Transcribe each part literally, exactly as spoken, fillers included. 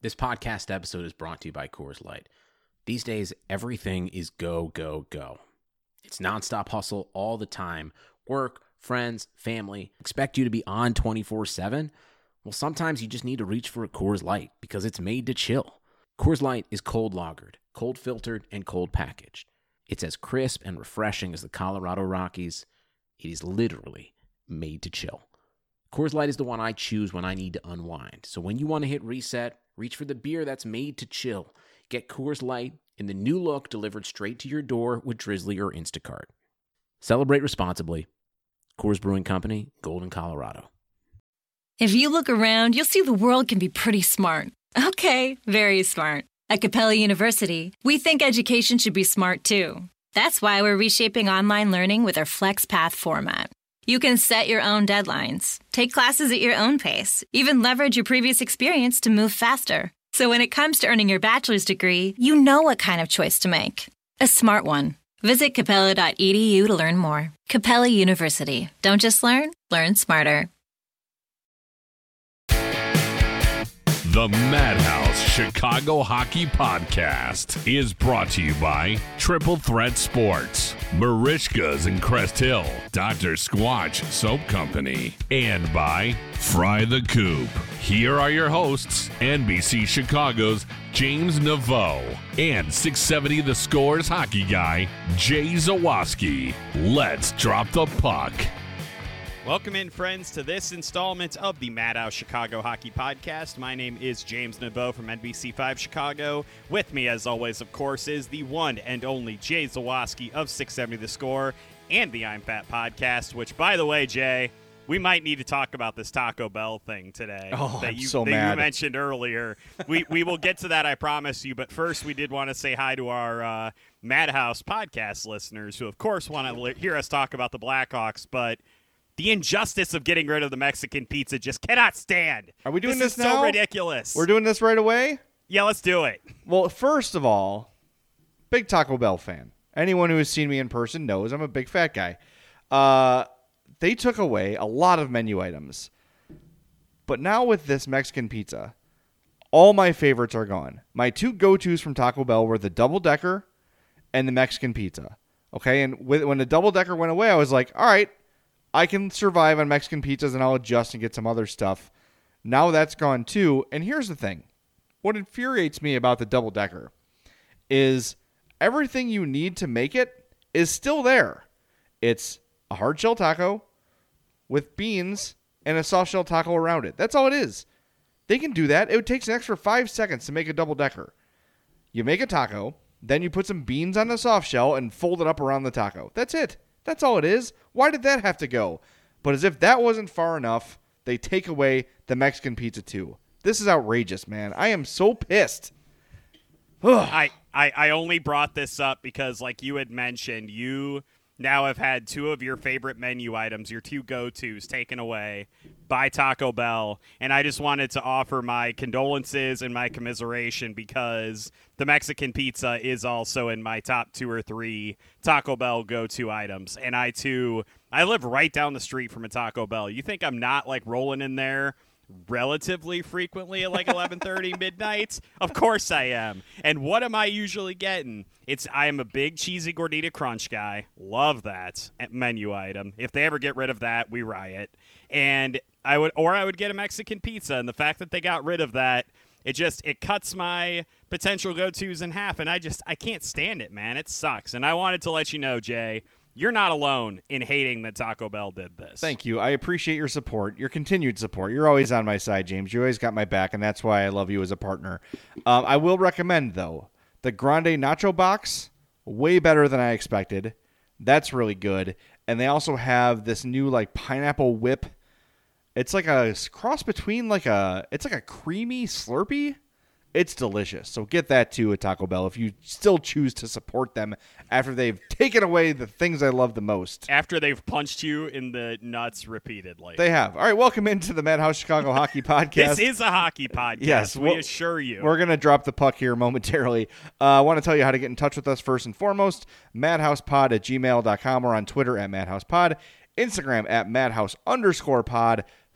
This podcast episode is brought to you by Coors Light. These days, everything is go, go, go. It's nonstop hustle all the time. Work, friends, family, expect you to be on twenty-four seven. Well, sometimes you just need to reach for a Coors Light because it's made to chill. Coors Light is cold lagered, cold filtered, and cold packaged. It's as crisp and refreshing as the Colorado Rockies. It is literally made to chill. Coors Light is the one I choose when I need to unwind. So when you want to hit reset, reach for the beer that's made to chill. Get Coors Light in the new look delivered straight to your door with Drizzly or Instacart. Celebrate responsibly. Coors Brewing Company, Golden, Colorado. If you look around, you'll see the world can be pretty smart. Okay, very smart. At Capella University, we think education should be smart too. That's why we're reshaping online learning with our FlexPath format. You can set your own deadlines, take classes at your own pace, even leverage your previous experience to move faster. So when it comes to earning your bachelor's degree, you know what kind of choice to make. A smart one. Visit capella dot e d u to learn more. Capella University. Don't just learn, learn smarter. The Madhouse Chicago Hockey Podcast is brought to you by Triple Threat Sports, Marishka's in Crest Hill, Doctor Squatch Soap Company, and by Fry the Coop. Here are your hosts, N B C Chicago's James Naveau and six seventy The Score's hockey guy, Jay Zawaski. Let's drop the puck. Welcome in, friends, to this installment of the Madhouse Chicago Hockey Podcast. My name is James Naveau from N B C five Chicago. With me, as always, of course, is the one and only Jay Zawaski of six seventy The Score and the I'm Fat Podcast, which, by the way, Jay, we might need to talk about this Taco Bell thing today. Oh, that I'm you, so that mad. you mentioned earlier. We we will get to that, I promise you. But first, we did want to say hi to our uh, Madhouse Podcast listeners who, of course, want to li- hear us talk about the Blackhawks, but the injustice of getting rid of the Mexican pizza just cannot stand. Are we doing this? this is now? so ridiculous. We're doing this right away? Yeah, let's do it. Well, first of all, big Taco Bell fan. Anyone who has seen me in person knows I'm a big fat guy. Uh, they took away a lot of menu items. But now with this Mexican pizza, all my favorites are gone. My two go-tos from Taco Bell were the double-decker and the Mexican pizza. Okay, and with, when the double-decker went away, I was like, all right, I can survive on Mexican pizzas and I'll adjust and get some other stuff. Now that's gone too. And here's the thing. What infuriates me about the double decker is everything you need to make it is still there. It's a hard shell taco with beans and a soft shell taco around it. That's all it is. They can do that. It takes an extra five seconds to make a double decker. You make a taco, then you put some beans on the soft shell and fold it up around the taco. That's it. That's all it is. Why did that have to go? But as if that wasn't far enough, they take away the Mexican pizza too. This is outrageous, man. I am so pissed. I, I, I only brought this up because, like you had mentioned, you now have had two of your favorite menu items, your two go-tos, taken away by Taco Bell. And I just wanted to offer my condolences and my commiseration because the Mexican pizza is also in my top two or three Taco Bell go-to items. And I, too, I live right down the street from a Taco Bell. You think I'm not, like, rolling in there relatively frequently at like eleven thirty midnight? Of course I am. And what am I usually getting? It's I am a big cheesy gordita crunch guy. Love that menu item. If they ever get rid of that, we riot. And I would or I would get a Mexican pizza, and the fact that they got rid of that, it just it cuts my potential go-tos in half, and I just I can't stand it, man. It sucks. And I wanted to let you know, Jay, you're not alone in hating that Taco Bell did this. Thank you. I appreciate your support, your continued support. You're always on my side, James. You always got my back, and that's why I love you as a partner. Um, I will recommend, though, the Grande Nacho Box, way better than I expected. That's really good. And they also have this new, like, pineapple whip. It's like a cross between, like a, it's like a creamy Slurpee. It's delicious. So get that too at Taco Bell if you still choose to support them after they've taken away the things I love the most. After they've punched you in the nuts repeatedly. They have. All right, welcome into the Madhouse Chicago Hockey Podcast. This is a hockey podcast. Yes, we we'll, assure you. We're going to drop the puck here momentarily. Uh, I want to tell you how to get in touch with us first and foremost. madhousepod at gmail dot com or on Twitter at madhousepod, Instagram at madhouse underscore pod,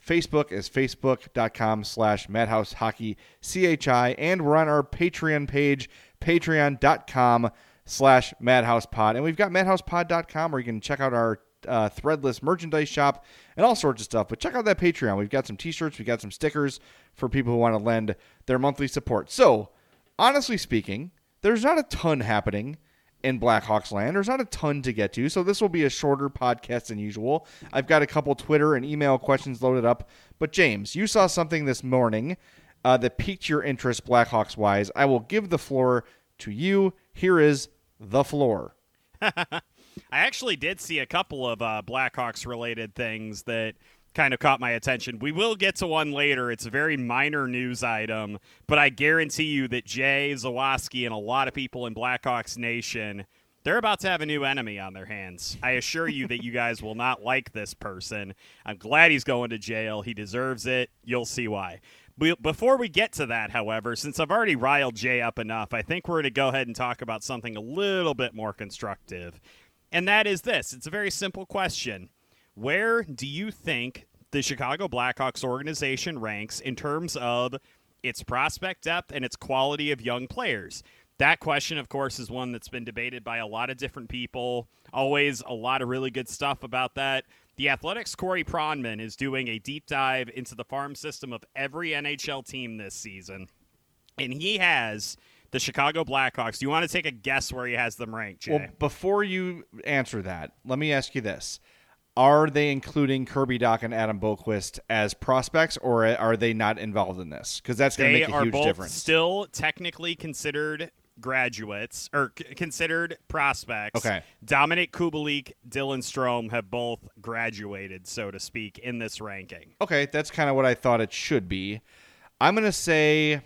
Facebook is facebook.com slash Madhouse Hockey CHI. And we're on our Patreon page, patreon.com slash Madhouse Pod. And we've got madhouse pod dot com where you can check out our uh, threadless merchandise shop and all sorts of stuff. But check out that Patreon. We've got some t-shirts. We've got some stickers for people who want to lend their monthly support. So, honestly speaking, there's not a ton happening in Blackhawks land. There's not a ton to get to, so this will be a shorter podcast than usual. I've got a couple Twitter and email questions loaded up. But James, you saw something this morning uh, that piqued your interest Blackhawks-wise. I will give the floor to you. Here is the floor. I actually did see a couple of uh, Blackhawks-related things that kind of caught my attention. We will get to one later. It's a very minor news item, but I guarantee you that Jay Zawaski and a lot of people in Blackhawks Nation, they're about to have a new enemy on their hands. I assure you that you guys will not like this person. I'm glad he's going to jail. He deserves it. You'll see why. Before we get to that, however, since I've already riled Jay up enough, I think we're going to go ahead and talk about something a little bit more constructive. And that is this. It's a very simple question. Where do you think the Chicago Blackhawks organization ranks in terms of its prospect depth and its quality of young players? That question, of course, is one that's been debated by a lot of different people. Always a lot of really good stuff about that. The Athletics' Corey Pronman is doing a deep dive into the farm system of every N H L team this season. And he has the Chicago Blackhawks. Do you want to take a guess where he has them ranked, Jay? Well, before you answer that, let me ask you this. Are they including Kirby Dach and Adam Boqvist as prospects, or are they not involved in this? Because that's going to make a huge difference. They are both still technically considered graduates, or c- considered prospects. Okay. Dominic Kubalik, Dylan Strome have both graduated, so to speak, in this ranking. Okay, that's kind of what I thought it should be. I'm going to say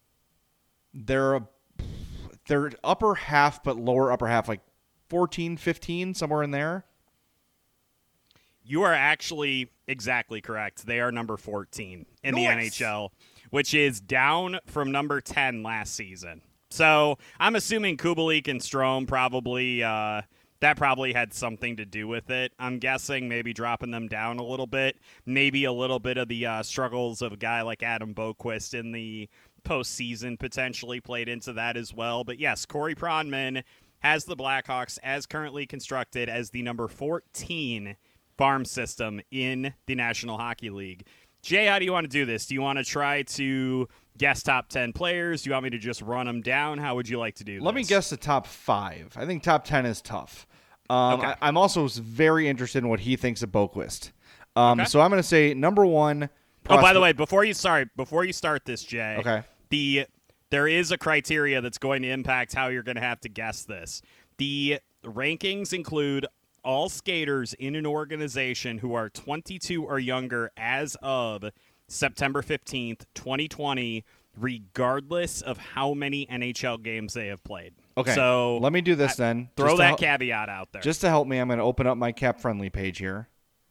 they're, they're upper half, but lower upper half, like fourteen, fifteen, somewhere in there. You are actually exactly correct. They are number fourteen in nice. the N H L, which is down from number ten last season. So I'm assuming Kubalik and Strome probably uh, that probably had something to do with it. I'm guessing maybe dropping them down a little bit, maybe a little bit of the uh, struggles of a guy like Adam Boqvist in the postseason potentially played into that as well. But yes, Corey Pronman has the Blackhawks as currently constructed as the number fourteen farm system in the National Hockey League. Jay, how do you want to do this? Do you want to try to guess top ten players? Do you want me to just run them down? How would you like to do this? Let me guess the top five. I think top ten is tough. Um, okay. I, I'm also very interested in what he thinks of Boqvist. Um, okay. So I'm going to say number one. Oh, by the way, before you sorry, before you start this, Jay. Okay. The there is a criteria that's going to impact how you're going to have to guess this. The rankings include all skaters in an organization who are twenty-two or younger as of September fifteenth, twenty twenty, regardless of how many N H L games they have played. Okay, so let me do this I, then. Throw just that hel- caveat out there. Just to help me, I'm going to open up my cap-friendly page here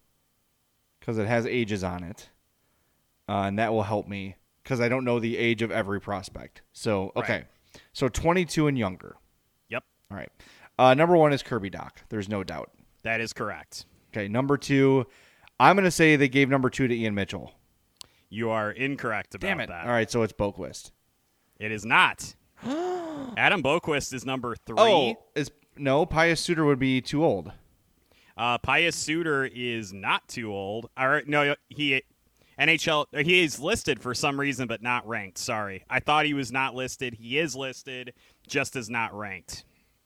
because it has ages on it, uh, and that will help me because I don't know the age of every prospect. So, okay, Right. so twenty-two and younger. Yep, All right. Uh, number one is Kirby Dach. There's no doubt. that is correct. Okay, number two, I'm going to say they gave number two to Ian Mitchell. You are incorrect about Damn it. that. All right, so it's Boqvist. It is not. Adam Boqvist is number three. Oh, is no, Pius Suter would be too old. Uh, Pius Suter is not too old. All right, no, he N H L. He is listed for some reason, but not ranked. Sorry, I thought he was not listed. He is listed, just as not ranked.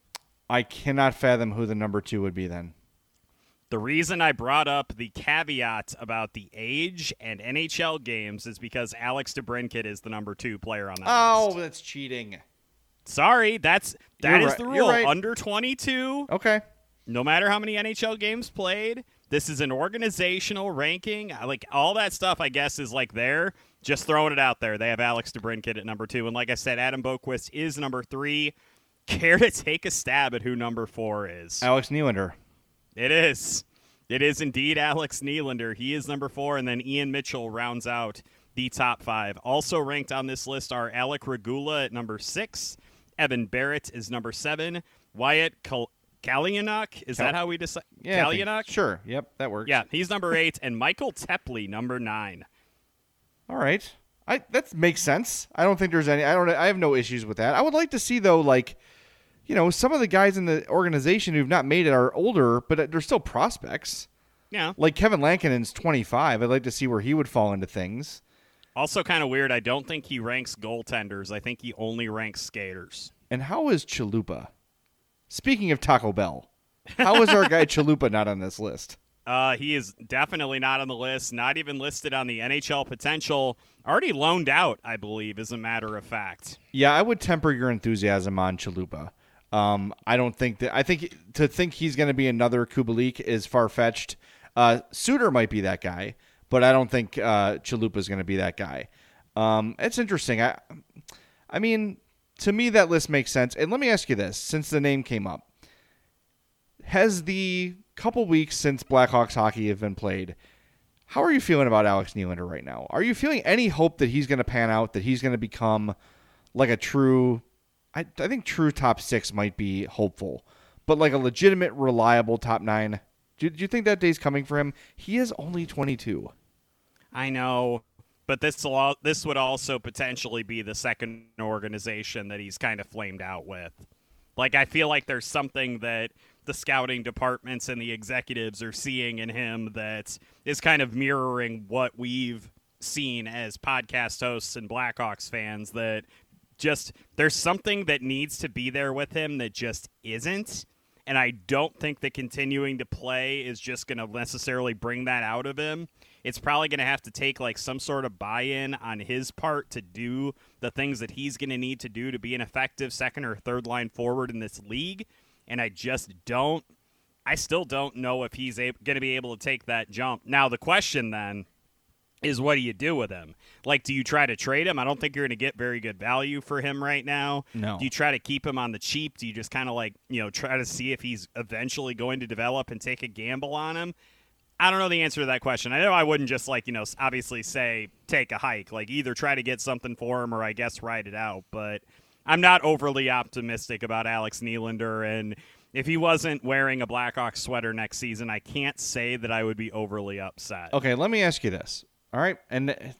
I cannot fathom who the number two would be then. The reason I brought up the caveat about the age and N H L games is because Alex DeBrincat is the number two player on that Oh, list. that's cheating. Sorry, that's that You're is right. the You're rule. right. Under twenty-two, Okay. no matter how many N H L games played, this is an organizational ranking. Like all that stuff, I guess, is like there. Just throwing it out there. They have Alex DeBrincat at number two, and like I said, Adam Boqvist is number three. Care to take a stab at who number four is? Alex Nylander. It is. It is indeed Alex Nylander. He is number four, and then Ian Mitchell rounds out the top five. Also ranked on this list are Alec Regula at number six. Evan Barrett is number seven. Wyatt Kal- Kalyanuk? Is Kal- that how we decide? Yeah, I think- Kalyanuk? Sure. Yep, that works. Yeah, he's number eight, and Michael Tepley, number nine. All right. I that makes sense. I don't think there's any. I don't. I have no issues with that. I would like to see though, like, you know, some of the guys in the organization who've not made it are older, but they're still prospects. Yeah. Like Kevin Lankinen's twenty-five. I'd like to see where he would fall into things. Also kind of weird, I don't think he ranks goaltenders. I think he only ranks skaters. And how is Chalupa? Speaking of Taco Bell, how is our guy Chalupa not on this list? Uh, he is definitely not on the list, not even listed on the N H L potential. Already loaned out, I believe, as a matter of fact. Yeah, I would temper your enthusiasm on Chalupa. Um, I don't think that. I think to think he's going to be another Kubalik is far-fetched. Uh, Suter might be that guy, but I don't think uh, Chalupa is going to be that guy. Um, it's interesting. I, I mean, to me, that list makes sense. And let me ask you this, since the name came up. Has the couple weeks since Blackhawks hockey have been played, how are you feeling about Alex Nylander right now? Are you feeling any hope that he's going to pan out, that he's going to become like a true, I, I think true top six might be hopeful, but like a legitimate, reliable top nine? Do, do you think that day's coming for him? He is only twenty-two. I know, but this will, this would also potentially be the second organization that he's kind of flamed out with. Like, I feel like there's something that the scouting departments and the executives are seeing in him that is kind of mirroring what we've seen as podcast hosts and Blackhawks fans, that just there's something that needs to be there with him that just isn't. And I don't think that continuing to play is just going to necessarily bring that out of him. It's probably going to have to take like some sort of buy-in on his part to do the things that he's going to need to do to be an effective second or third line forward in this league. And I just don't, I still don't know if he's going to be able to take that jump. Now, the question then is, what do you do with him? Like, do you try to trade him? I don't think you're going to get very good value for him right now. No. Do you try to keep him on the cheap? Do you just kind of like, you know, try to see if he's eventually going to develop and take a gamble on him? I don't know the answer to that question. I know I wouldn't just like, you know, obviously say take a hike. Like, either try to get something for him or I guess ride it out. But I'm not overly optimistic about Alex Nylander, and if he wasn't wearing a Blackhawks sweater next season, I can't say that I would be overly upset. Okay, let me ask you this. All right, and it,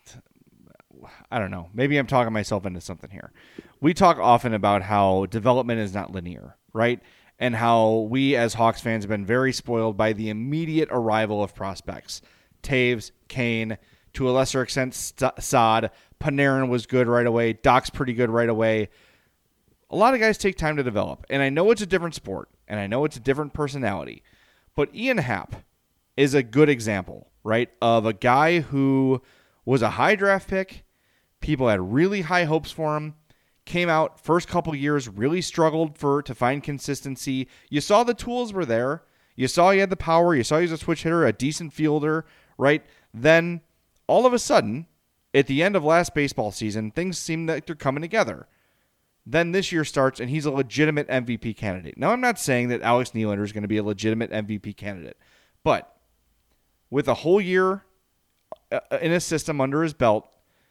I don't know. Maybe I'm talking myself into something here. We talk often about how development is not linear, right? And how we as Hawks fans have been very spoiled by the immediate arrival of prospects. Taves, Kane, to a lesser extent, St- Saad. Panarin was good right away. Doc's pretty good right away. A lot of guys take time to develop. And I know it's a different sport, and I know it's a different personality. But Ian Happ is a good example, right, of a guy who was a high draft pick. People had really high hopes for him. Came out, first couple years, really struggled for to find consistency. You saw the tools were there. You saw he had the power. You saw he was a switch hitter, a decent fielder, right? Then, all of a sudden, at the end of last baseball season, things seem like they're coming together. Then this year starts, and he's a legitimate M V P candidate. Now, I'm not saying that Alex Nylander is going to be a legitimate M V P candidate, but with a whole year in a system under his belt,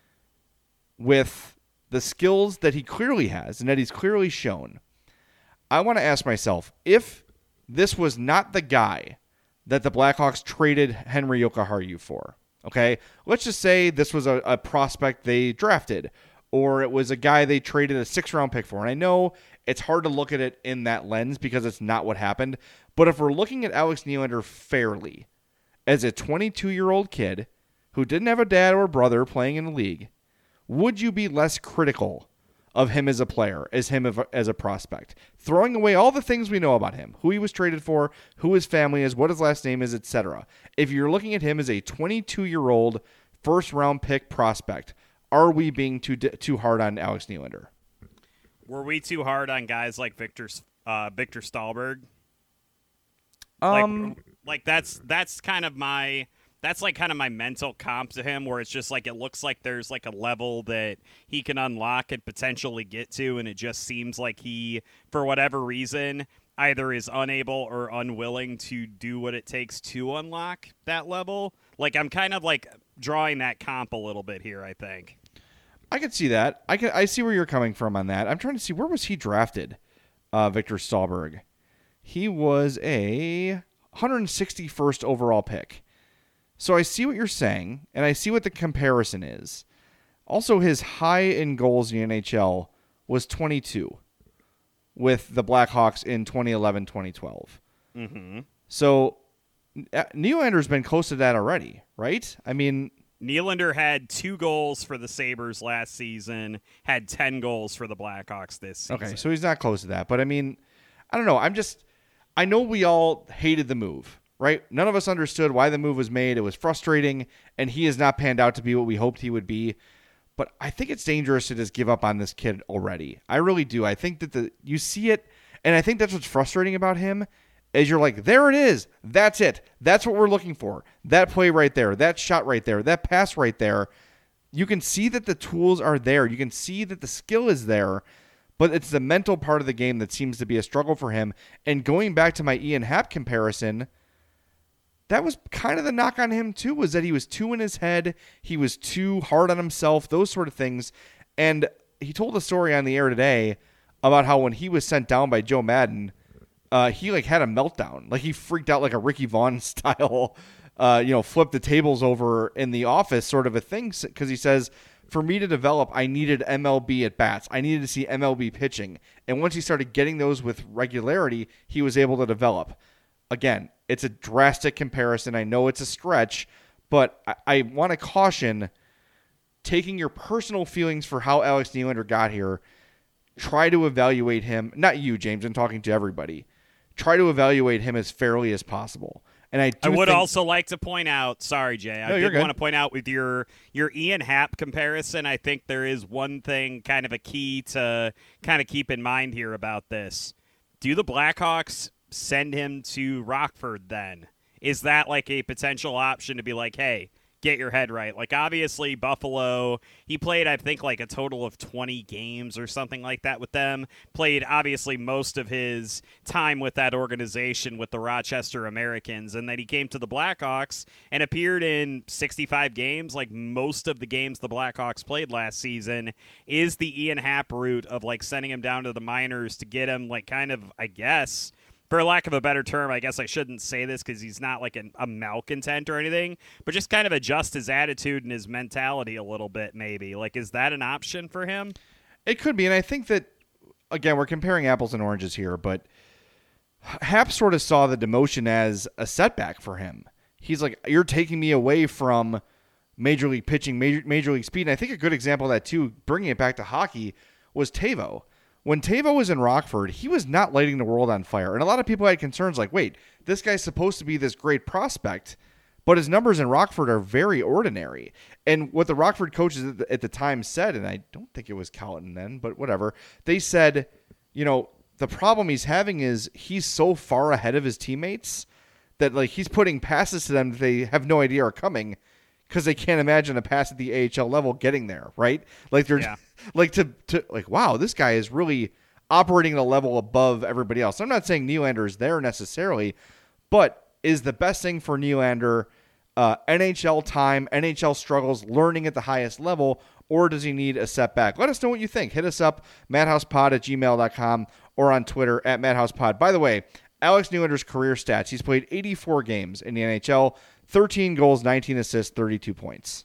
with the skills that he clearly has and that he's clearly shown, I want to ask myself, if this was not the guy that the Blackhawks traded Henry Jokiharju for, okay, let's just say this was a, a prospect they drafted, or it was a guy they traded a six-round pick for. And I know it's hard to look at it in that lens because it's not what happened, but if we're looking at Alex Nylander fairly, as a twenty-two-year-old kid who didn't have a dad or a brother playing in the league, would you be less critical of him as a player, as him as a prospect? Throwing away all the things we know about him, who he was traded for, who his family is, what his last name is, et cetera. If you're looking at him as a twenty-two-year-old first-round pick prospect, are we being too too hard on Alex Nylander? Were we too hard on guys like Victor uh, Victor Stahlberg? Um, like, like that's that's kind of my. That's like kind of my mental comp to him, where it's just like it looks like there's like a level that he can unlock and potentially get to, and it just seems like he, for whatever reason, either is unable or unwilling to do what it takes to unlock that level. Like, I'm kind of like drawing that comp a little bit here, I think. I can see that. I can. I see where you're coming from on that. I'm trying to see, where was he drafted, uh, Victor Stahlberg? he was a one hundred sixty-first overall pick. So I see what you're saying, and I see what the comparison is. Also, his high in goals in the N H L was twenty-two with the Blackhawks in twenty eleven twenty twelve. Mm-hmm. So Nylander's been close to that already, right? I mean, Nylander had two goals for the Sabres last season, had ten goals for the Blackhawks this season. Okay, so he's not close to that. But I mean, I don't know. I'm just, I know we all hated the move, right? None of us understood why the move was made. It was frustrating, and he has not panned out to be what we hoped he would be. But I think it's dangerous to just give up on this kid already. I really do. I think that the you see it, and I think that's what's frustrating about him, is you're like, there it is. That's it. That's what we're looking for. That play right there. That shot right there. That pass right there. You can see that the tools are there. You can see that the skill is there, but it's the mental part of the game that seems to be a struggle for him. And going back to my Ian Happ comparison, that was kind of the knock on him too, was that he was too in his head. He was too hard on himself, those sort of things. And he told a story on the air today about how when he was sent down by Joe Madden, uh, he like had a meltdown. Like he freaked out like a Ricky Vaughn style, uh, you know, flip the tables over in the office sort of a thing. Because he says, for me to develop, I needed M L B at bats. I needed to see M L B pitching. And once he started getting those with regularity, he was able to develop. Again, it's a drastic comparison. I know it's a stretch, but I, I want to caution taking your personal feelings for how Alex Nylander got here. Try to evaluate him. Not you, James. I'm talking to everybody. Try to evaluate him as fairly as possible. And I, do I would think, also like to point out, sorry, Jay, I No, did you're want to good. point out with your, your Ian Happ comparison, I think there is one thing, kind of a key to kind of keep in mind here about this. Do the Blackhawks send him to Rockford then? Is that like a potential option to be like, hey, get your head right? Like, obviously, Buffalo, he played, I think, like a total of twenty games or something like that with them. Played, obviously, most of his time with that organization with the Rochester Americans. And then he came to the Blackhawks and appeared in sixty-five games, like most of the games the Blackhawks played last season. Is the Ian Happ route of, like, sending him down to the minors to get him, like, kind of, I guess, for lack of a better term, I guess I shouldn't say this because he's not like an, a malcontent or anything, but just kind of adjust his attitude and his mentality a little bit, maybe. Like, is that an option for him? It could be, and I think that, again, we're comparing apples and oranges here, but Happ sort of saw the demotion as a setback for him. He's like, you're taking me away from Major League pitching, Major, Major League speed, and I think a good example of that, too, bringing it back to hockey, was Teuvo. When Teuvo was in Rockford, he was not lighting the world on fire. And a lot of people had concerns like, wait, this guy's supposed to be this great prospect, but his numbers in Rockford are very ordinary. And what the Rockford coaches at the, at the time said, and I don't think it was Colleton then, but whatever, they said, you know, the problem he's having is he's so far ahead of his teammates that like he's putting passes to them that they have no idea are coming because they can't imagine a pass at the A H L level getting there, right? Like they're Yeah. like to, to like, wow, this guy is really operating at a level above everybody else. I'm not saying Nylander is there necessarily, but is the best thing for Nylander uh, N H L time, N H L struggles, learning at the highest level, or does he need a setback? Let us know what you think. Hit us up, madhousepod at gmail dot com or on Twitter at madhousepod. By the way, Alex Nylander's career stats, he's played eighty-four games in the N H L, thirteen goals, nineteen assists, thirty-two points.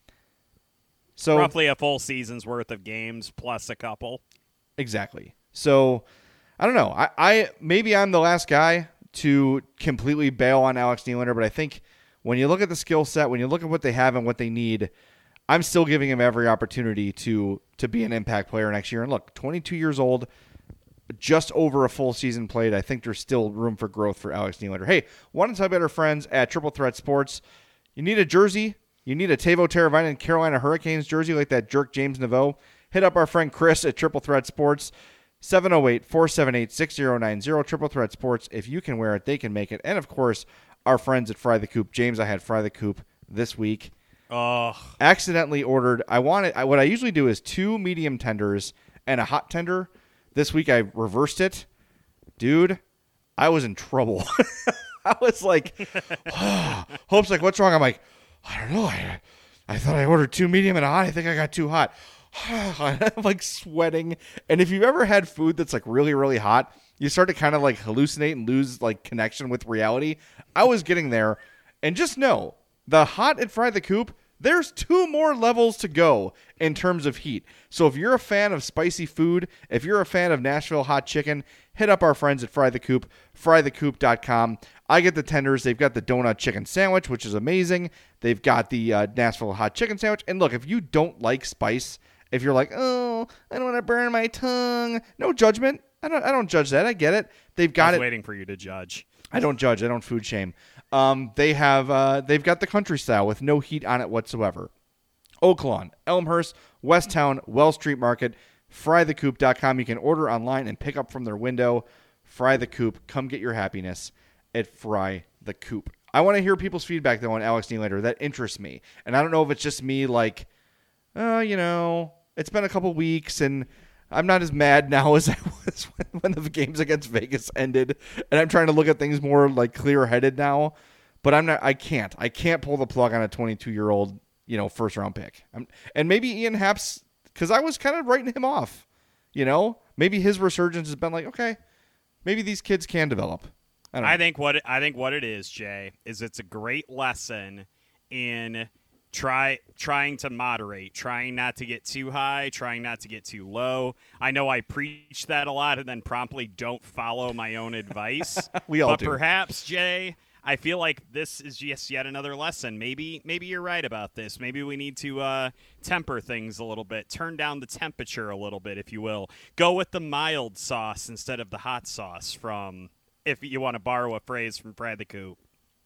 So Roughly a full season's worth of games plus a couple. Exactly. So I don't know. I, I maybe I'm the last guy to completely bail on Alex Nylander, but I think when you look at the skill set, when you look at what they have and what they need, I'm still giving him every opportunity to to be an impact player next year. And look, twenty-two years old, just over a full season played. I think there's still room for growth for Alex Nylander. Hey, want to tell about our friends at Triple Threat Sports? You need a jersey? You need a Teuvo Teravainen Carolina Hurricanes jersey like that jerk James Naveau? Hit up our friend Chris at Triple Threat Sports, seven oh eight, four seven eight, six oh nine oh. Triple Threat Sports. If you can wear it, they can make it. And, of course, our friends at Fry the Coop. James, I had Fry the Coop this week. Oh, Accidentally ordered. I wanted. I, what I usually do is two medium tenders and a hot tender. This week I reversed it. Dude, I was in trouble. I was like, oh. Hope's like, what's wrong? I'm like, I don't know. I, I thought I ordered two medium and a hot. I think I got too hot. I'm like sweating. And if you've ever had food that's like really, really hot, you start to kind of like hallucinate and lose like connection with reality. I was getting there. And just know, the hot at Fry the Coop, there's two more levels to go in terms of heat. So if you're a fan of spicy food, if you're a fan of Nashville hot chicken, hit up our friends at Fry the Coop, fry the coop dot com. I get the tenders. They've got the donut chicken sandwich, which is amazing. They've got the uh, Nashville hot chicken sandwich. And look, if you don't like spice, if you're like, oh, I don't want to burn my tongue, no judgment. I don't I don't judge that. I get it. They've got I was it. waiting for you to judge. I don't judge. I don't food shame. Um, they have uh, they've got the country style with no heat on it whatsoever. Oaklawn, Elmhurst, Westtown, Wells Street Market, fry the coop dot com. You can order online and pick up from their window. Fry the Coop. Come get your happiness at Fry the Coop. I want to hear people's feedback though on Alex Nylander. That interests me, and I don't know if it's just me like, oh, you know, it's been a couple weeks and I'm not as mad now as I was when, when the games against Vegas ended, and I'm trying to look at things more like clear-headed now. But I'm not. I can't. I can't pull the plug on a twenty-two-year-old, you know, first-round pick. I'm, and maybe Ian Happ's, because I was kind of writing him off. You know, maybe his resurgence has been like, okay, maybe these kids can develop. I, don't know. I think what it, I think what it is, Jay, is it's a great lesson in. Try trying to moderate, trying not to get too high, trying not to get too low. I know I preach that a lot and then promptly don't follow my own advice. We all but do. Perhaps, Jay, I feel like this is just yet another lesson. Maybe maybe you're right about this. Maybe we need to uh, temper things a little bit, turn down the temperature a little bit, if you will. Go with the mild sauce instead of the hot sauce from, if you want to borrow a phrase from Fry the Coop.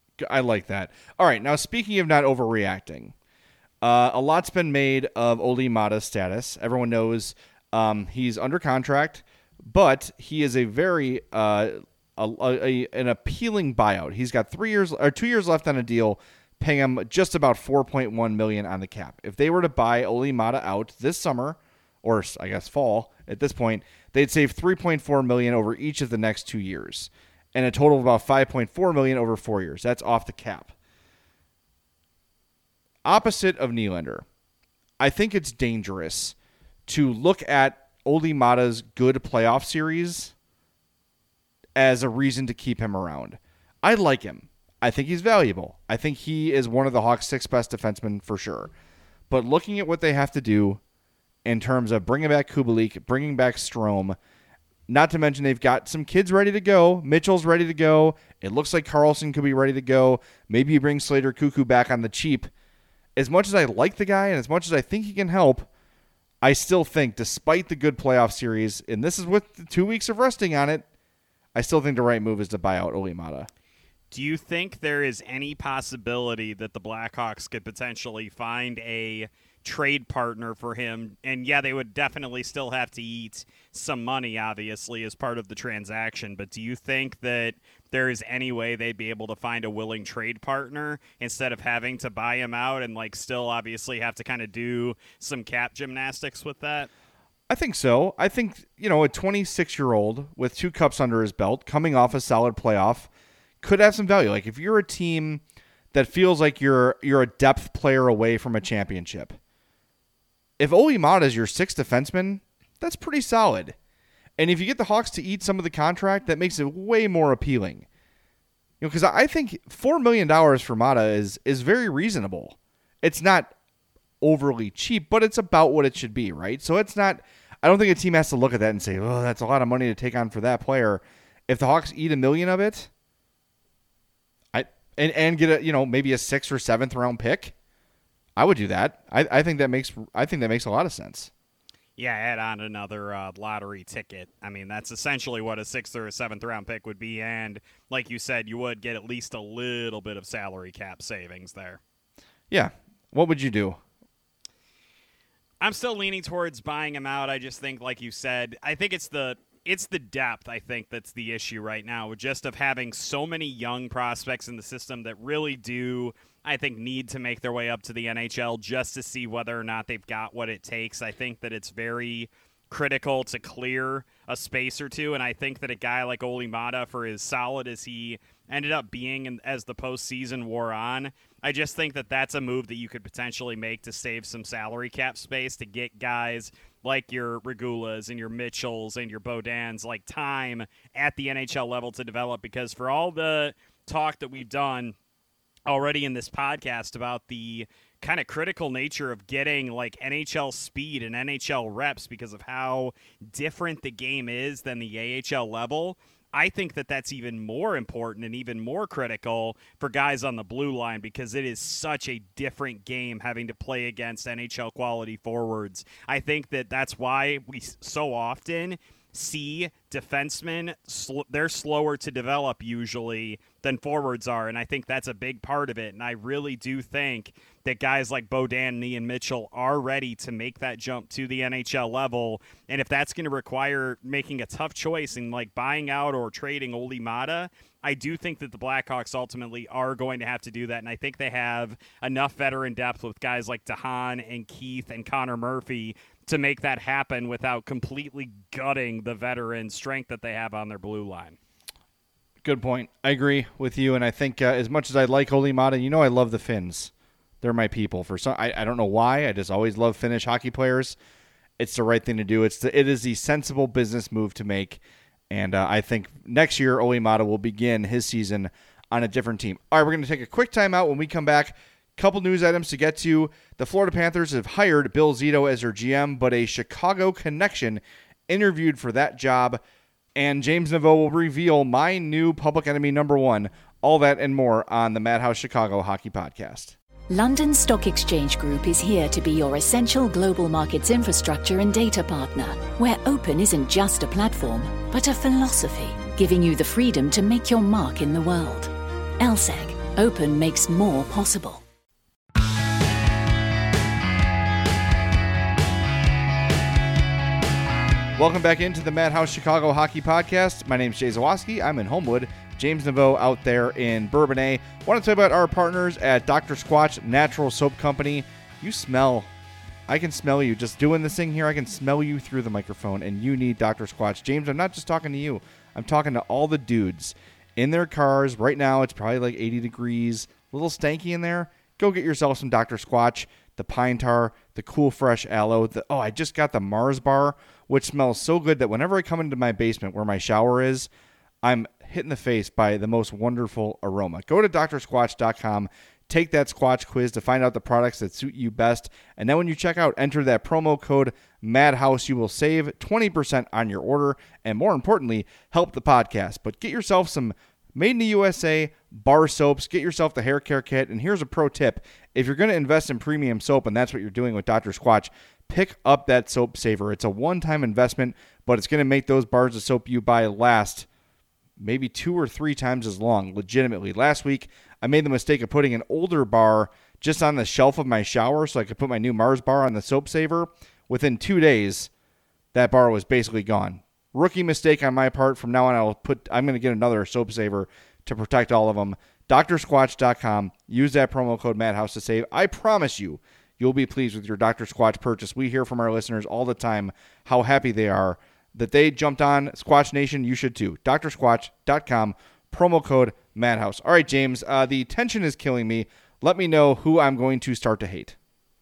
I like that. All right, now speaking of not overreacting, uh, a lot's been made of Olli Maatta's status. Everyone knows um, he's under contract, but he is a very uh, a, a, an appealing buyout. He's got three years or two years left on a deal, paying him just about four point one million dollars on the cap. If they were to buy Olli Maatta out this summer, or I guess fall at this point, they'd save three point four million dollars over each of the next two years. And a total of about five point four million dollars over four years. That's off the cap. Opposite of Nylander, I think it's dangerous to look at Olli Maatta's good playoff series as a reason to keep him around. I like him. I think he's valuable. I think he is one of the Hawks' six best defensemen for sure. But looking at what they have to do in terms of bringing back Kubalik, bringing back Strome, not to mention they've got some kids ready to go. Mitchell's ready to go. It looks like Carlson could be ready to go. Maybe you bring Slater Cuckoo back on the cheap. As much as I like the guy and as much as I think he can help, I still think, despite the good playoff series, and this is with the two weeks of resting on it, I still think the right move is to buy out Olli Maatta. Do you think there is any possibility that the Blackhawks could potentially find a trade partner for him? And yeah, they would definitely still have to eat some money, obviously, as part of the transaction. But do you think that there is any way they'd be able to find a willing trade partner instead of having to buy him out and like still obviously have to kind of do some cap gymnastics with that? I think so. I think, you know, a twenty-six-year-old with two cups under his belt coming off a solid playoff could have some value. Like if you're a team that feels like you're you're a depth player away from a championship, if Olli Maatta is your sixth defenseman, that's pretty solid. And if you get the Hawks to eat some of the contract, that makes it way more appealing. You know, because I think four million dollars for Maatta is is very reasonable. It's not overly cheap, but it's about what it should be, right? So it's not. I don't think a team has to look at that and say, "Oh, that's a lot of money to take on for that player." If the Hawks eat a million of it, I and and get a you know maybe a sixth or seventh round pick, I would do that. I, I think that makes I think that makes a lot of sense. Yeah, add on another uh, lottery ticket. I mean, that's essentially what a sixth or a seventh round pick would be, and like you said, you would get at least a little bit of salary cap savings there. Yeah. What would you do? I'm still leaning towards buying him out. I just think, like you said, I think it's the it's the depth, I think, that's the issue right now, just of having so many young prospects in the system that really do, I think, need to make their way up to the N H L just to see whether or not they've got what it takes. I think that it's very critical to clear a space or two. And I think that a guy like Olli Maatta, for as solid as he ended up being in, as the postseason wore on, I just think that that's a move that you could potentially make to save some salary cap space to get guys like your Regulas and your Mitchells and your Bodans like time at the N H L level to develop. Because for all the talk that we've done already in this podcast about the kind of critical nature of getting like N H L speed and N H L reps because of how different the game is than the A H L level, I think that that's even more important and even more critical for guys on the blue line because it is such a different game having to play against N H L quality forwards. I think that that's why we so often see defensemen, sl- they're slower to develop usually than forwards are, and I think that's a big part of it. And I really do think that guys like Beaudin and Ian Mitchell are ready to make that jump to the N H L level. And if that's going to require making a tough choice and like buying out or trading Olli Maatta, I do think that the Blackhawks ultimately are going to have to do that. And I think they have enough veteran depth with guys like DeHaan and Keith and Connor Murphy to make that happen without completely gutting the veteran strength that they have on their blue line. Good point. I agree with you, and I think uh, as much as I like Olli Maatta, you know I love the Finns. They're my people. For some, I, I don't know why. I just always love Finnish hockey players. It's the right thing to do. It's the, it is the sensible business move to make, and uh, I think next year Olli Maatta will begin his season on a different team. All right, we're going to take a quick timeout. When we come back, couple news items to get to. The Florida Panthers have hired Bill Zito as their G M, but a Chicago connection interviewed for that job. And James Naveau will reveal my new public enemy number one. All that and more on the Madhouse Chicago Hockey Podcast. London Stock Exchange Group is here to be your essential global markets infrastructure and data partner, where open isn't just a platform, but a philosophy, giving you the freedom to make your mark in the world. L S E G. Open makes more possible. Welcome back into the Madhouse Chicago Hockey Podcast. My name is Jay Zawoski. I'm in Homewood. James Naveau out there in Bourbonnais. I want to tell you about our partners at Doctor Squatch Natural Soap Company. You smell. I can smell you. Just doing this thing here, I can smell you through the microphone, and you need Doctor Squatch. James, I'm not just talking to you. I'm talking to all the dudes in their cars. Right now, it's probably like eighty degrees. A little stanky in there. Go get yourself some Doctor Squatch. The pine tar, the cool fresh aloe. The, oh, I just got the Mars bar, which smells so good that whenever I come into my basement where my shower is, I'm hit in the face by the most wonderful aroma. Go to D R squatch dot com, take that Squatch quiz to find out the products that suit you best, and then when you check out, enter that promo code MADHOUSE. You will save twenty percent on your order, and more importantly, help the podcast. But get yourself some made in the U S A bar soaps. Get yourself the hair care kit. And here's a pro tip. If you're going to invest in premium soap, and that's what you're doing with Doctor Squatch, pick up that soap saver. It's a one-time investment, but it's going to make those bars of soap you buy last maybe two or three times as long, legitimately. Last week, I made the mistake of putting an older bar just on the shelf of my shower so I could put my new Mars bar on the soap saver. Within two days, that bar was basically gone. Rookie mistake on my part. From now on, I'll put. I'm going to get another soap saver to protect all of them. D R squatch dot com. Use that promo code MADHOUSE to save. I promise you, you'll be pleased with your Doctor Squatch purchase. We hear from our listeners all the time how happy they are that they jumped on Squatch Nation. You should too. D R squatch dot com. Promo code MADHOUSE. All right, James. Uh, the tension is killing me. Let me know who I'm going to start to hate.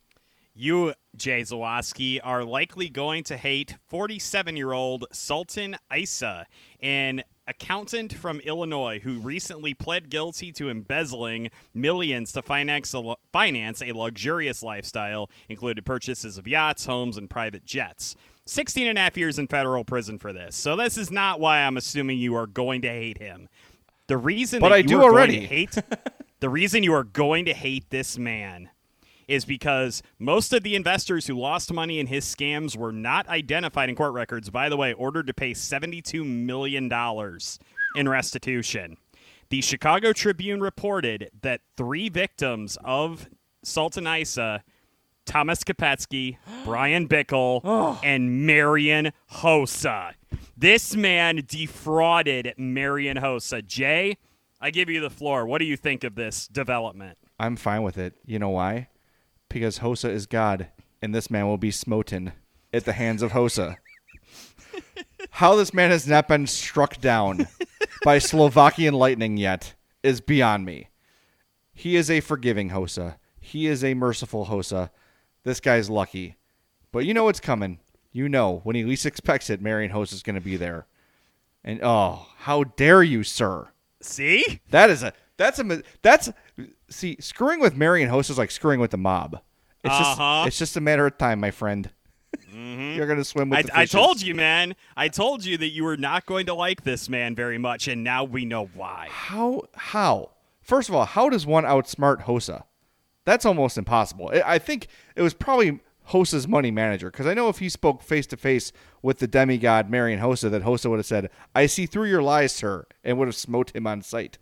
You, Jay Zawoski, are likely going to hate forty-seven-year-old Sultan Isa, an accountant from Illinois who recently pled guilty to embezzling millions to finance a, finance a luxurious lifestyle, including purchases of yachts, homes, and private jets. sixteen and a half years in federal prison for this. So this is not why I'm assuming you are going to hate him. The reason but that I you do are already. going to hate the reason you are going to hate this man is because most of the investors who lost money in his scams were not identified in court records. By the way, ordered to pay seventy-two million dollars in restitution. The Chicago Tribune reported that three victims of Sultan Isa, Thomas Kopetsky, Brian Bickle, oh. and Marian Hossa. This man defrauded Marian Hossa. Jay, I give you the floor. What do you think of this development? I'm fine with it. You know why? Because Hossa is God, and this man will be smoten at the hands of Hossa. how this man has not been struck down by Slovakian lightning yet is beyond me. He is a forgiving Hossa. He is a merciful Hossa. This guy's lucky. But you know what's coming. You know, when he least expects it, Marian Hossa is going to be there. And, oh, how dare you, sir. See? That is a, that's a, that's, see, screwing with Marian Hossa is like screwing with the mob. It's uh-huh. just, it's just a matter of time, my friend. Mm-hmm. You're going to swim with I, the fishes. I told you, man. I told you that you were not going to like this man very much, and now we know why. How, how? First of all, how does one outsmart Hossa? That's almost impossible. I think it was probably Hossa's money manager, because I know if he spoke face-to-face with the demigod Marian Hossa, that Hossa would have said, "I see through your lies, sir," and would have smote him on sight.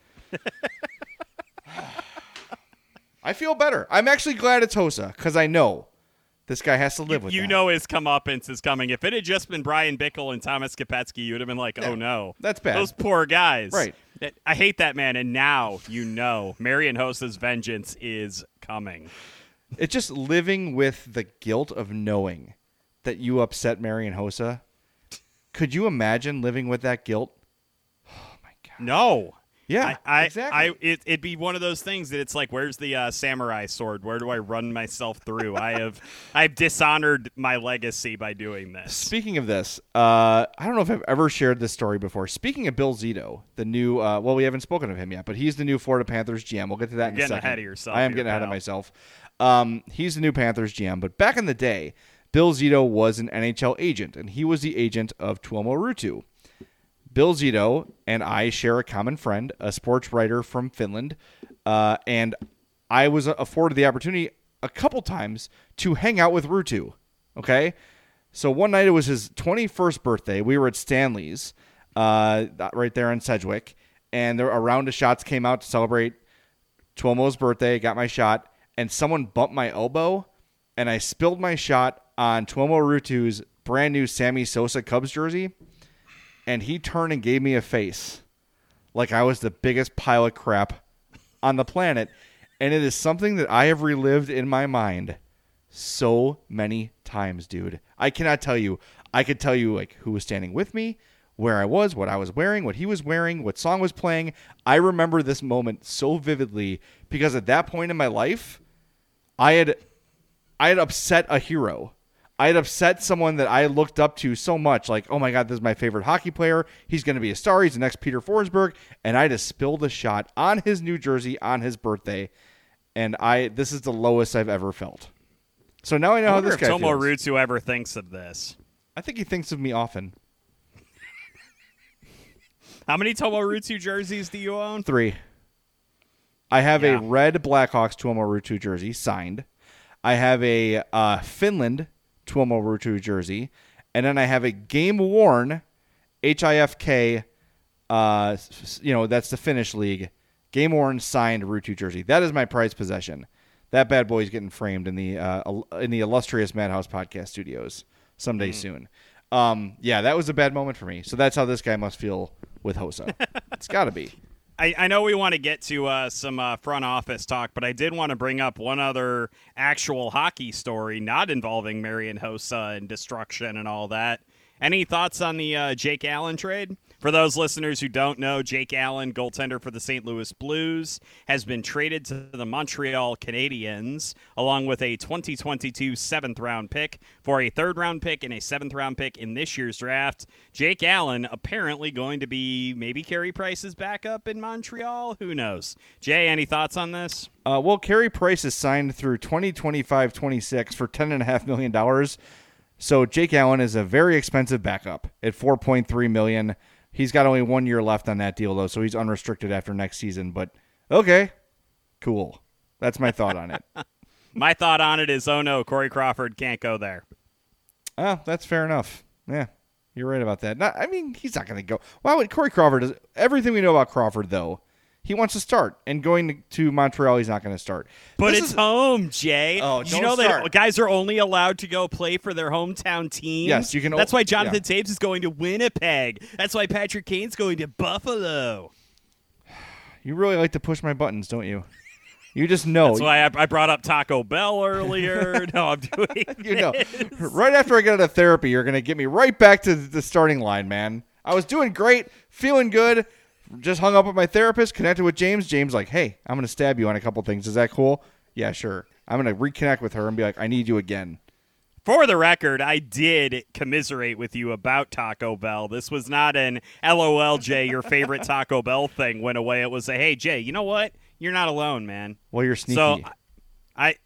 I feel better. I'm actually glad it's Hossa, because I know this guy has to live you, with you that. You know his comeuppance is coming. If it had just been Brian Bickle and Thomas Kopecky, you would have been like, yeah, oh, no. That's bad. Those poor guys. Right. I hate that man, and now you know Marian Hossa's vengeance is coming. It's just living with the guilt of knowing that you upset Marian Hossa. Could you imagine living with that guilt? Oh, my God. No. Yeah, I, I, exactly. I, it, it'd be one of those things that it's like, where's the uh, samurai sword? Where do I run myself through? I have I've dishonored my legacy by doing this. Speaking of this, uh, I don't know if I've ever shared this story before. Speaking of Bill Zito, the new, uh, well, we haven't spoken of him yet, but he's the new Florida Panthers G M. We'll get to that You're in a getting second. ahead of yourself I am here, getting ahead of pal. myself. Um, he's the new Panthers G M, but back in the day, Bill Zito was an N H L agent, and he was the agent of Tuomo Ruutu. Bill Zito and I share a common friend, a sports writer from Finland, uh, and I was afforded the opportunity a couple times to hang out with Ruutu. Okay, so one night it was his twenty-first birthday. We were at Stanley's, uh, right there in Sedgwick, and there, a round of shots came out to celebrate Tuomo's birthday. Got my shot, and someone bumped my elbow, and I spilled my shot on Tuomo Ruutu's brand new Sammy Sosa Cubs jersey. And he turned and gave me a face like I was the biggest pile of crap on the planet. And it is something that I have relived in my mind so many times, dude. I cannot tell you. I could tell you like who was standing with me, where I was, what I was wearing, what he was wearing, what song was playing. I remember this moment so vividly because at that point in my life, I had I had upset a hero. I had upset someone that I looked up to so much, like, oh my God, this is my favorite hockey player. He's going to be a star. He's the next Peter Forsberg. And I just spilled a shot on his New Jersey on his birthday. And I, this is the lowest I've ever felt. So now I know I how wonder this if guy Tomo feels. Ruutu ever thinks of this. I think he thinks of me often. How many Tomo Ruutu jerseys do you own? Three. I have Yeah. a red Blackhawks Tuomo Ruutu jersey signed. I have a uh, Finland Tuomo Ruutu jersey, and then I have a game-worn H I F K, uh, you know, that's the Finnish league, game-worn signed Ruutu jersey. That is my prized possession. That bad boy is getting framed in the uh, in the illustrious Madhouse Podcast Studios someday mm. soon. Um, yeah, that was a bad moment for me. So that's how this guy must feel with Hossa. It's got to be. I, I know we want to get to uh, some uh, front office talk, but I did want to bring up one other actual hockey story not involving Marian Hossa and destruction and all that. Any thoughts on the uh, Jake Allen trade? For those listeners who don't know, Jake Allen, goaltender for the Saint Louis Blues, has been traded to the Montreal Canadiens along with a twenty twenty-two seventh-round pick for a third-round pick and a seventh-round pick in this year's draft. Jake Allen apparently going to be maybe Carey Price's backup in Montreal. Who knows? Jay, any thoughts on this? Uh, well, Carey Price is signed through twenty twenty-five twenty-six for ten point five million dollars. So Jake Allen is a very expensive backup at four point three million dollars. He's got only one year left on that deal, though, so he's unrestricted after next season. But, okay, cool. That's my thought on it. My thought on it is, oh, no, Corey Crawford can't go there. Oh, that's fair enough. Yeah, you're right about that. Not, I mean, he's not going to go. Why would Corey Crawford? Is, everything we know about Crawford, though, he wants to start. And going to, to Montreal, he's not going to start. But this it's is, home, Jay. Oh, Did don't you know start. that guys are only allowed to go play for their hometown teams? Yes, you can. That's why Jonathan yeah. Taves is going to Winnipeg. That's why Patrick Kane's going to Buffalo. You really like to push my buttons, don't you? You just know. That's why I, I brought up Taco Bell earlier. No, I'm doing You know, this. right after I get out of therapy, you're going to get me right back to the starting line, man. I was doing great, feeling good. Just hung up with my therapist, connected with James. James like, hey, I'm going to stab you on a couple things. Is that cool? Yeah, sure. I'm going to reconnect with her and be like, I need you again. For the record, I did commiserate with you about Taco Bell. This was not an L O L, Jay, your favorite Taco Bell thing went away. It was a, hey, Jay, you know what? You're not alone, man. Well, you're sneaky. So, I...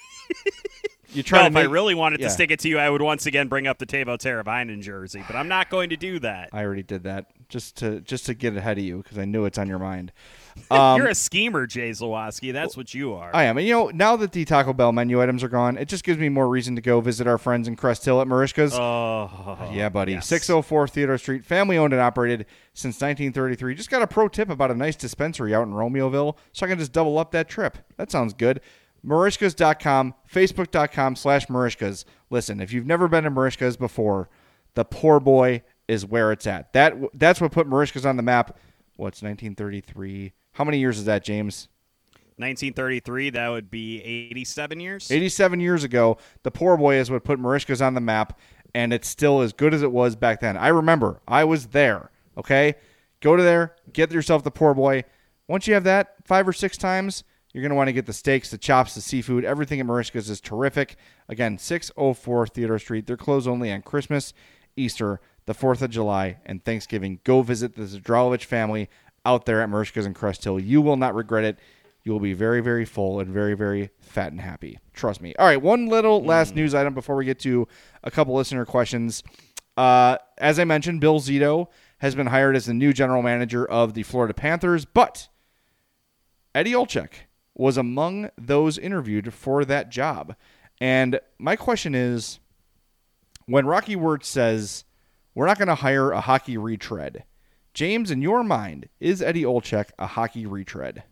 You try well, to if make, I really wanted yeah. to stick it to you, I would once again bring up the Tavo Teravainen jersey, but I'm not going to do that. I already did that just to just to get ahead of you because I knew it's on your mind. Um, You're a schemer, Jay Zawoski. That's what you are. I am. And, you know, now that the Taco Bell menu items are gone, it just gives me more reason to go visit our friends in Crest Hill at Marishka's. Oh, yeah, buddy. yes. six oh four Theodore Street, family owned and operated since nineteen thirty-three. Just got a pro tip about a nice dispensary out in Romeoville, so I can just double up that trip. That sounds good. Marishkas dot com, Facebook dot com slash Marishkas. Listen, if you've never been to Marishkas before, the poor boy is where it's at. That That's what put Marishkas on the map. What's nineteen thirty-three? How many years is that, James? nineteen thirty-three, that would be eighty-seven years. eighty-seven years ago, the poor boy is what put Marishkas on the map, and it's still as good as it was back then. I remember. I was there, okay? Go to there, get yourself the poor boy. Once you have that five or six times, you're going to want to get the steaks, the chops, the seafood. Everything at Marishka's is terrific. Again, six oh four Theodore Street. They're closed only on Christmas, Easter, the fourth of July, and Thanksgiving. Go visit the Zadralovich family out there at Marishka's in Crest Hill. You will not regret it. You will be very, very full and very, very fat and happy. Trust me. All right, one little last mm. news item before we get to a couple listener questions. Uh, as I mentioned, Bill Zito has been hired as the new general manager of the Florida Panthers, but Eddie Olczyk was among those interviewed for that job. And my question is, when Rocky Wirtz says, we're not going to hire a hockey retread, James, in your mind, is Eddie Olczyk a hockey retread?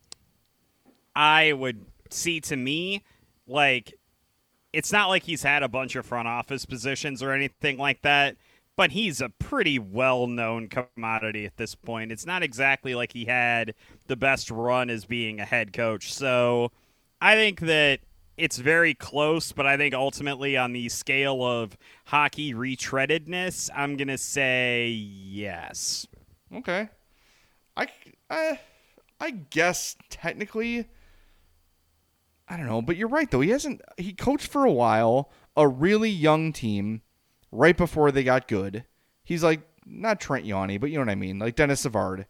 I would see, to me, like, it's not like he's had a bunch of front office positions or anything like that, but he's a pretty well-known commodity at this point. It's not exactly like he had the best run as being a head coach. So I think that it's very close, but I think ultimately on the scale of hockey retreadedness, I'm going to say yes. Okay. I, I, I guess technically, I don't know, but you're right, though. He hasn't, he coached for a while, a really young team, right before they got good. He's like, not Trent Yawney, but you know what I mean, like Dennis Savard.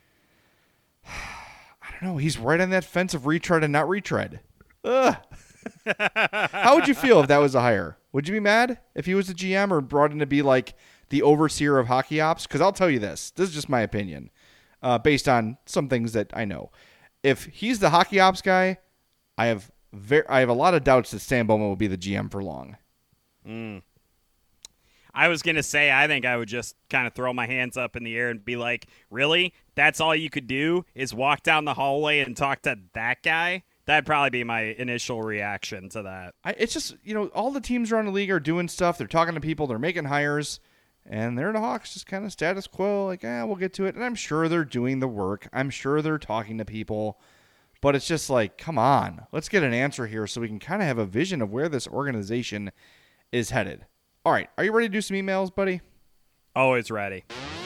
I don't know. He's right on that fence of retread and not retread. Ugh. How would you feel if that was a hire? Would you be mad if he was the G M or brought in to be like the overseer of hockey ops? Because I'll tell you this. This is just my opinion, uh, based on some things that I know. If he's the hockey ops guy, I have very, I have a lot of doubts that Stan Bowman will be the G M for long. Mm. I was going to say, I think I would just kind of throw my hands up in the air and be like, really? That's all you could do is walk down the hallway and talk to that guy? That'd probably be my initial reaction to that. I, it's just, you know, all the teams around the league are doing stuff. They're talking to people. They're making hires. And they're the Hawks, just kind of status quo, like, eh, we'll get to it. And I'm sure they're doing the work. I'm sure they're talking to people. But it's just like, come on. Let's get an answer here so we can kind of have a vision of where this organization is headed. All right. Are you ready to do some emails, buddy? Always ready.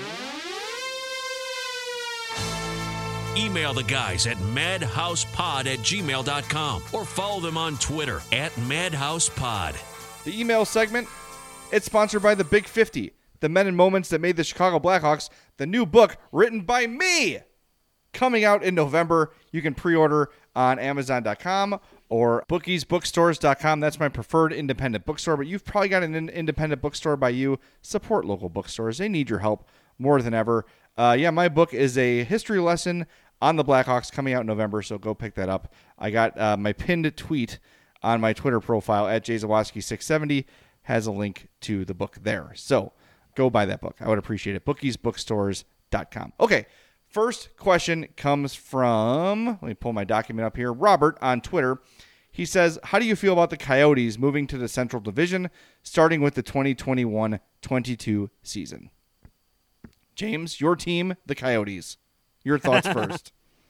Email the guys at madhousepod at gmail dot com or follow them on Twitter at madhousepod. The email segment, it's sponsored by The Big fifty, the men and moments that made the Chicago Blackhawks, the new book written by me, coming out in November. You can pre-order on amazon dot com or bookies bookstores dot com. That's my preferred independent bookstore, but you've probably got an in- independent bookstore by you. Support local bookstores. They need your help more than ever. Uh, yeah, my book is a history lesson on the Blackhawks coming out in November, so go pick that up. I got uh, my pinned tweet on my Twitter profile at Jay Zawoski six seventy has a link to the book there. So go buy that book. I would appreciate it. bookies bookstores dot com. Okay, first question comes from, let me pull my document up here, Robert on Twitter. He says, how do you feel about the Coyotes moving to the Central Division, starting with the twenty twenty-one twenty-two season? James, your team, the Coyotes. Your thoughts first.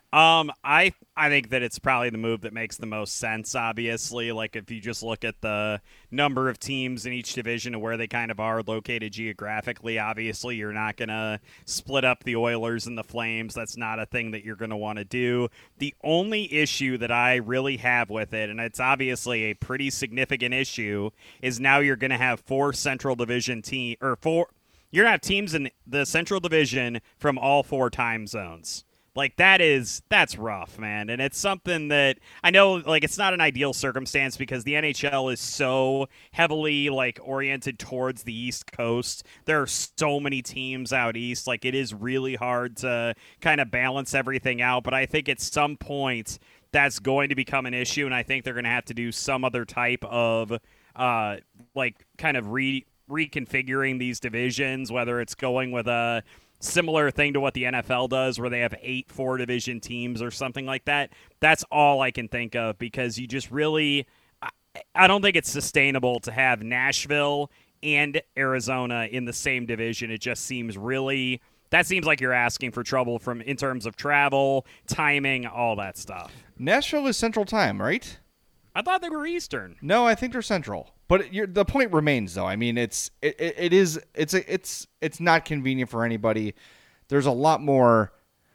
Um, I I think that it's probably the move that makes the most sense, obviously. Like, if you just look at the number of teams in each division and where they kind of are located geographically, obviously you're not going to split up the Oilers and the Flames. That's not a thing that you're going to want to do. The only issue that I really have with it, and it's obviously a pretty significant issue, is now you're going to have four Central Division team or four you're going to have teams in the Central Division from all four time zones. Like, that is, that's rough, man. And it's something that I know, like, it's not an ideal circumstance because the N H L is so heavily, like, oriented towards the East Coast. There are so many teams out East. Like, it is really hard to kind of balance everything out. But I think at some point that's going to become an issue. And I think they're going to have to do some other type of, uh, like, kind of re- reconfiguring these divisions, whether it's going with a similar thing to what the N F L does where they have eight four division teams or something like that. That's all I can think of because you just really I, I don't think it's sustainable to have Nashville and Arizona in the same division. It just seems really that seems like you're asking for trouble from in terms of travel, timing, all that stuff. Nashville is Central Time, right? I thought they were Eastern. No, I think they're Central. But you're, the point remains, though. I mean, it's it, it, it is it's a, it's it's not convenient for anybody. There's a lot more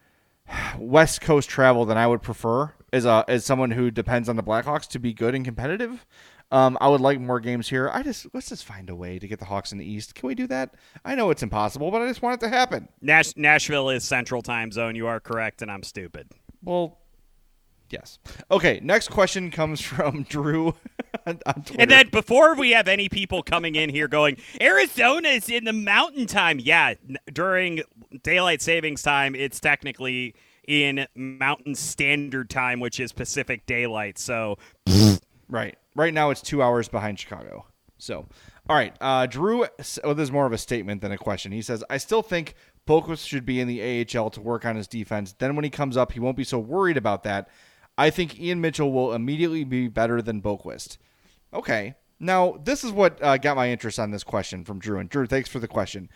West Coast travel than I would prefer as a as someone who depends on the Blackhawks to be good and competitive. Um, I would like more games here. I just let's just find a way to get the Hawks in the East. Can we do that? I know it's impossible, but I just want it to happen. Nash- Nashville is Central Time Zone. You are correct, and I'm stupid. Well. Yes. Okay, next question comes from Drew on Twitter. And then before we have any people coming in here going, Arizona's in the mountain time. Yeah, during daylight savings time, it's technically in mountain standard time, which is Pacific daylight. So, right. Right now it's two hours behind Chicago. So, all right. Uh, Drew, well, this is more of a statement than a question. He says, I still think Boqvist should be in the A H L to work on his defense. Then when he comes up, he won't be so worried about that. I think Ian Mitchell will immediately be better than Boqvist. Okay. Now, this is what uh, got my interest on this question from Drew. And Drew, thanks for the question.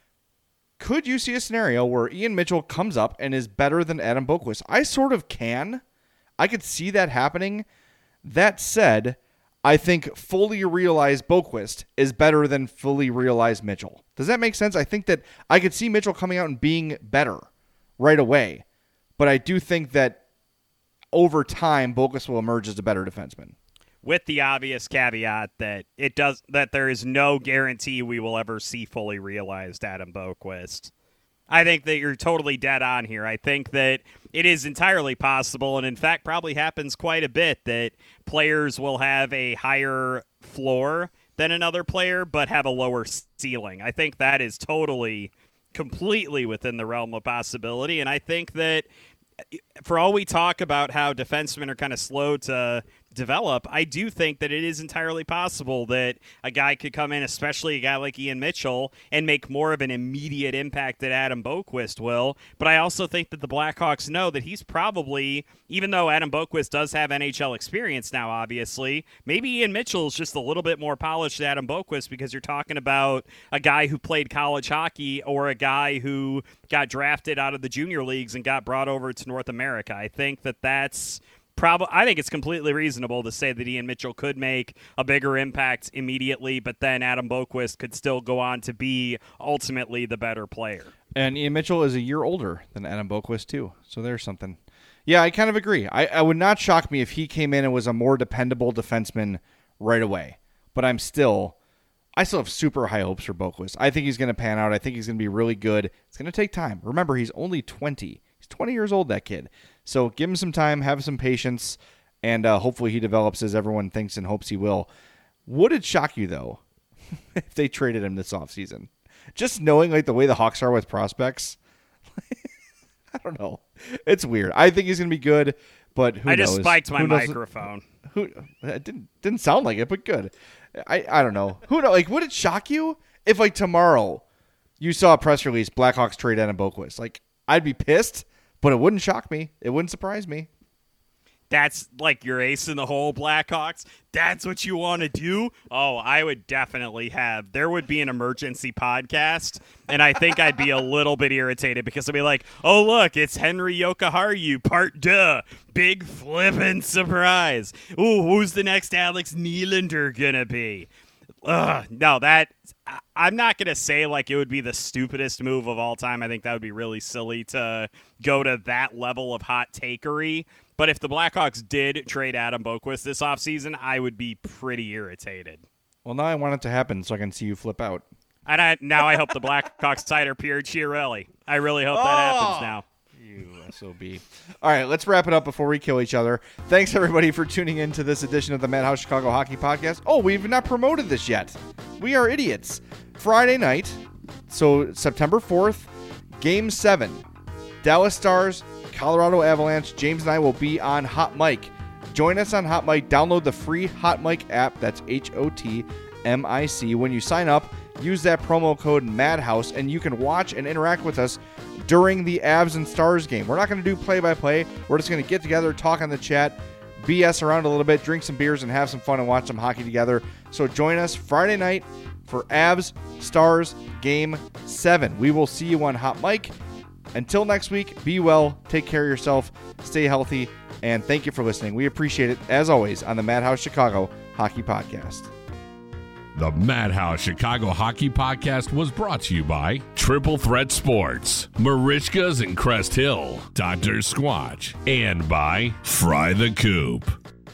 Could you see a scenario where Ian Mitchell comes up and is better than Adam Boqvist? I sort of can. I could see that happening. That said, I think fully realized Boqvist is better than fully realized Mitchell. Does that make sense? I think that I could see Mitchell coming out and being better right away. But I do think that over time, Boqvist will emerge as a better defenseman. With the obvious caveat that it does that there is no guarantee we will ever see fully realized Adam Boqvist. I think that you're totally dead on here. I think that it is entirely possible, and in fact probably happens quite a bit, that players will have a higher floor than another player, but have a lower ceiling. I think that is totally, completely within the realm of possibility, and I think that for all we talk about how defensemen are kind of slow to develop, I do think that it is entirely possible that a guy could come in, especially a guy like Ian Mitchell, and make more of an immediate impact that Adam Boqvist will. But I also think that the Blackhawks know that he's probably, even though Adam Boqvist does have N H L experience now, obviously, maybe Ian Mitchell is just a little bit more polished than Adam Boqvist because you're talking about a guy who played college hockey or a guy who got drafted out of the junior leagues and got brought over to North America. I think that that's Probably, I think it's completely reasonable to say that Ian Mitchell could make a bigger impact immediately, but then Adam Boqvist could still go on to be ultimately the better player. And Ian Mitchell is a year older than Adam Boqvist, too. So there's something. Yeah, I kind of agree. I, I would not shock me if he came in and was a more dependable defenseman right away. But I'm still, I still have super high hopes for Boqvist. I think he's going to pan out. I think he's going to be really good. It's going to take time. Remember, he's only twenty. He's twenty years old, that kid. So give him some time, have some patience, and uh, hopefully he develops as everyone thinks and hopes he will. Would it shock you, though, if they traded him this offseason? Just knowing like the way the Hawks are with prospects, I don't know. It's weird. I think he's going to be good, but who I knows? just spiked my who knows? microphone. Who it didn't didn't sound like it, but good. I, I don't know. Who know? Like, would it shock you if like tomorrow you saw a press release Blackhawks trade Adam Boqvist? Like, I'd be pissed. But it wouldn't shock me. It wouldn't surprise me. That's like your ace in the hole, Blackhawks. That's what you want to do? Oh, I would definitely have. There would be an emergency podcast, and I think I'd be a little bit irritated because I'd be like, oh, look, it's Henry Jokiharju, part duh. Big flippin' surprise. Ooh, who's the next Alex Nylander gonna be? Ugh, no, that I'm not going to say like it would be the stupidest move of all time. I think that would be really silly to go to that level of hot takery. But if the Blackhawks did trade Adam Boqvist this offseason, I would be pretty irritated. Well, now I want it to happen so I can see you flip out. And I, now I hope the Blackhawks cider Pierre Chiarelli. I really hope that oh! happens now. You S O B. All right, let's wrap it up before we kill each other. Thanks, everybody, for tuning in to this edition of the Madhouse Chicago Hockey Podcast. Oh, we've not promoted this yet. We are idiots. Friday night, so September fourth, Game seven. Dallas Stars, Colorado Avalanche. James and I will be on Hot Mic. Join us on Hot Mic. Download the free Hot Mic app. That's H O T M I C. When you sign up, use that promo code MADHOUSE, and you can watch and interact with us during the Avs and Stars game. We're not going to do play-by-play. We're just going to get together, talk on the chat, B S around a little bit, drink some beers, and have some fun and watch some hockey together. So join us Friday night for Avs Stars Game seven. We will see you on Hot Mic. Until next week, be well, take care of yourself, stay healthy, and thank you for listening. We appreciate it, as always, on the Madhouse Chicago Hockey Podcast. The Madhouse Chicago Hockey Podcast was brought to you by Triple Threat Sports, Marishkas and Crest Hill, Doctor Squatch, and by Fry the Coop.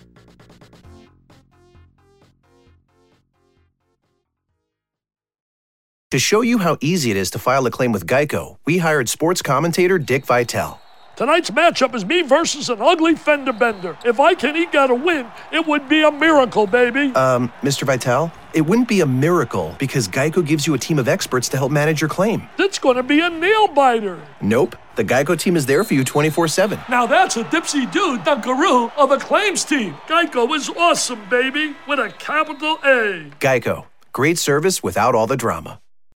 To show you how easy it is to file a claim with Geico, we hired sports commentator Dick Vitale. Tonight's matchup is me versus an ugly fender bender. If I can eke out a win, it would be a miracle, baby. Um, Mister Vitale, it wouldn't be a miracle because Geico gives you a team of experts to help manage your claim. It's going to be a nail-biter. Nope. The Geico team is there for you twenty-four seven. Now that's a dipsy-do dunkaroo of a claims team. Geico is awesome, baby, with a capital A. Geico. Great service without all the drama.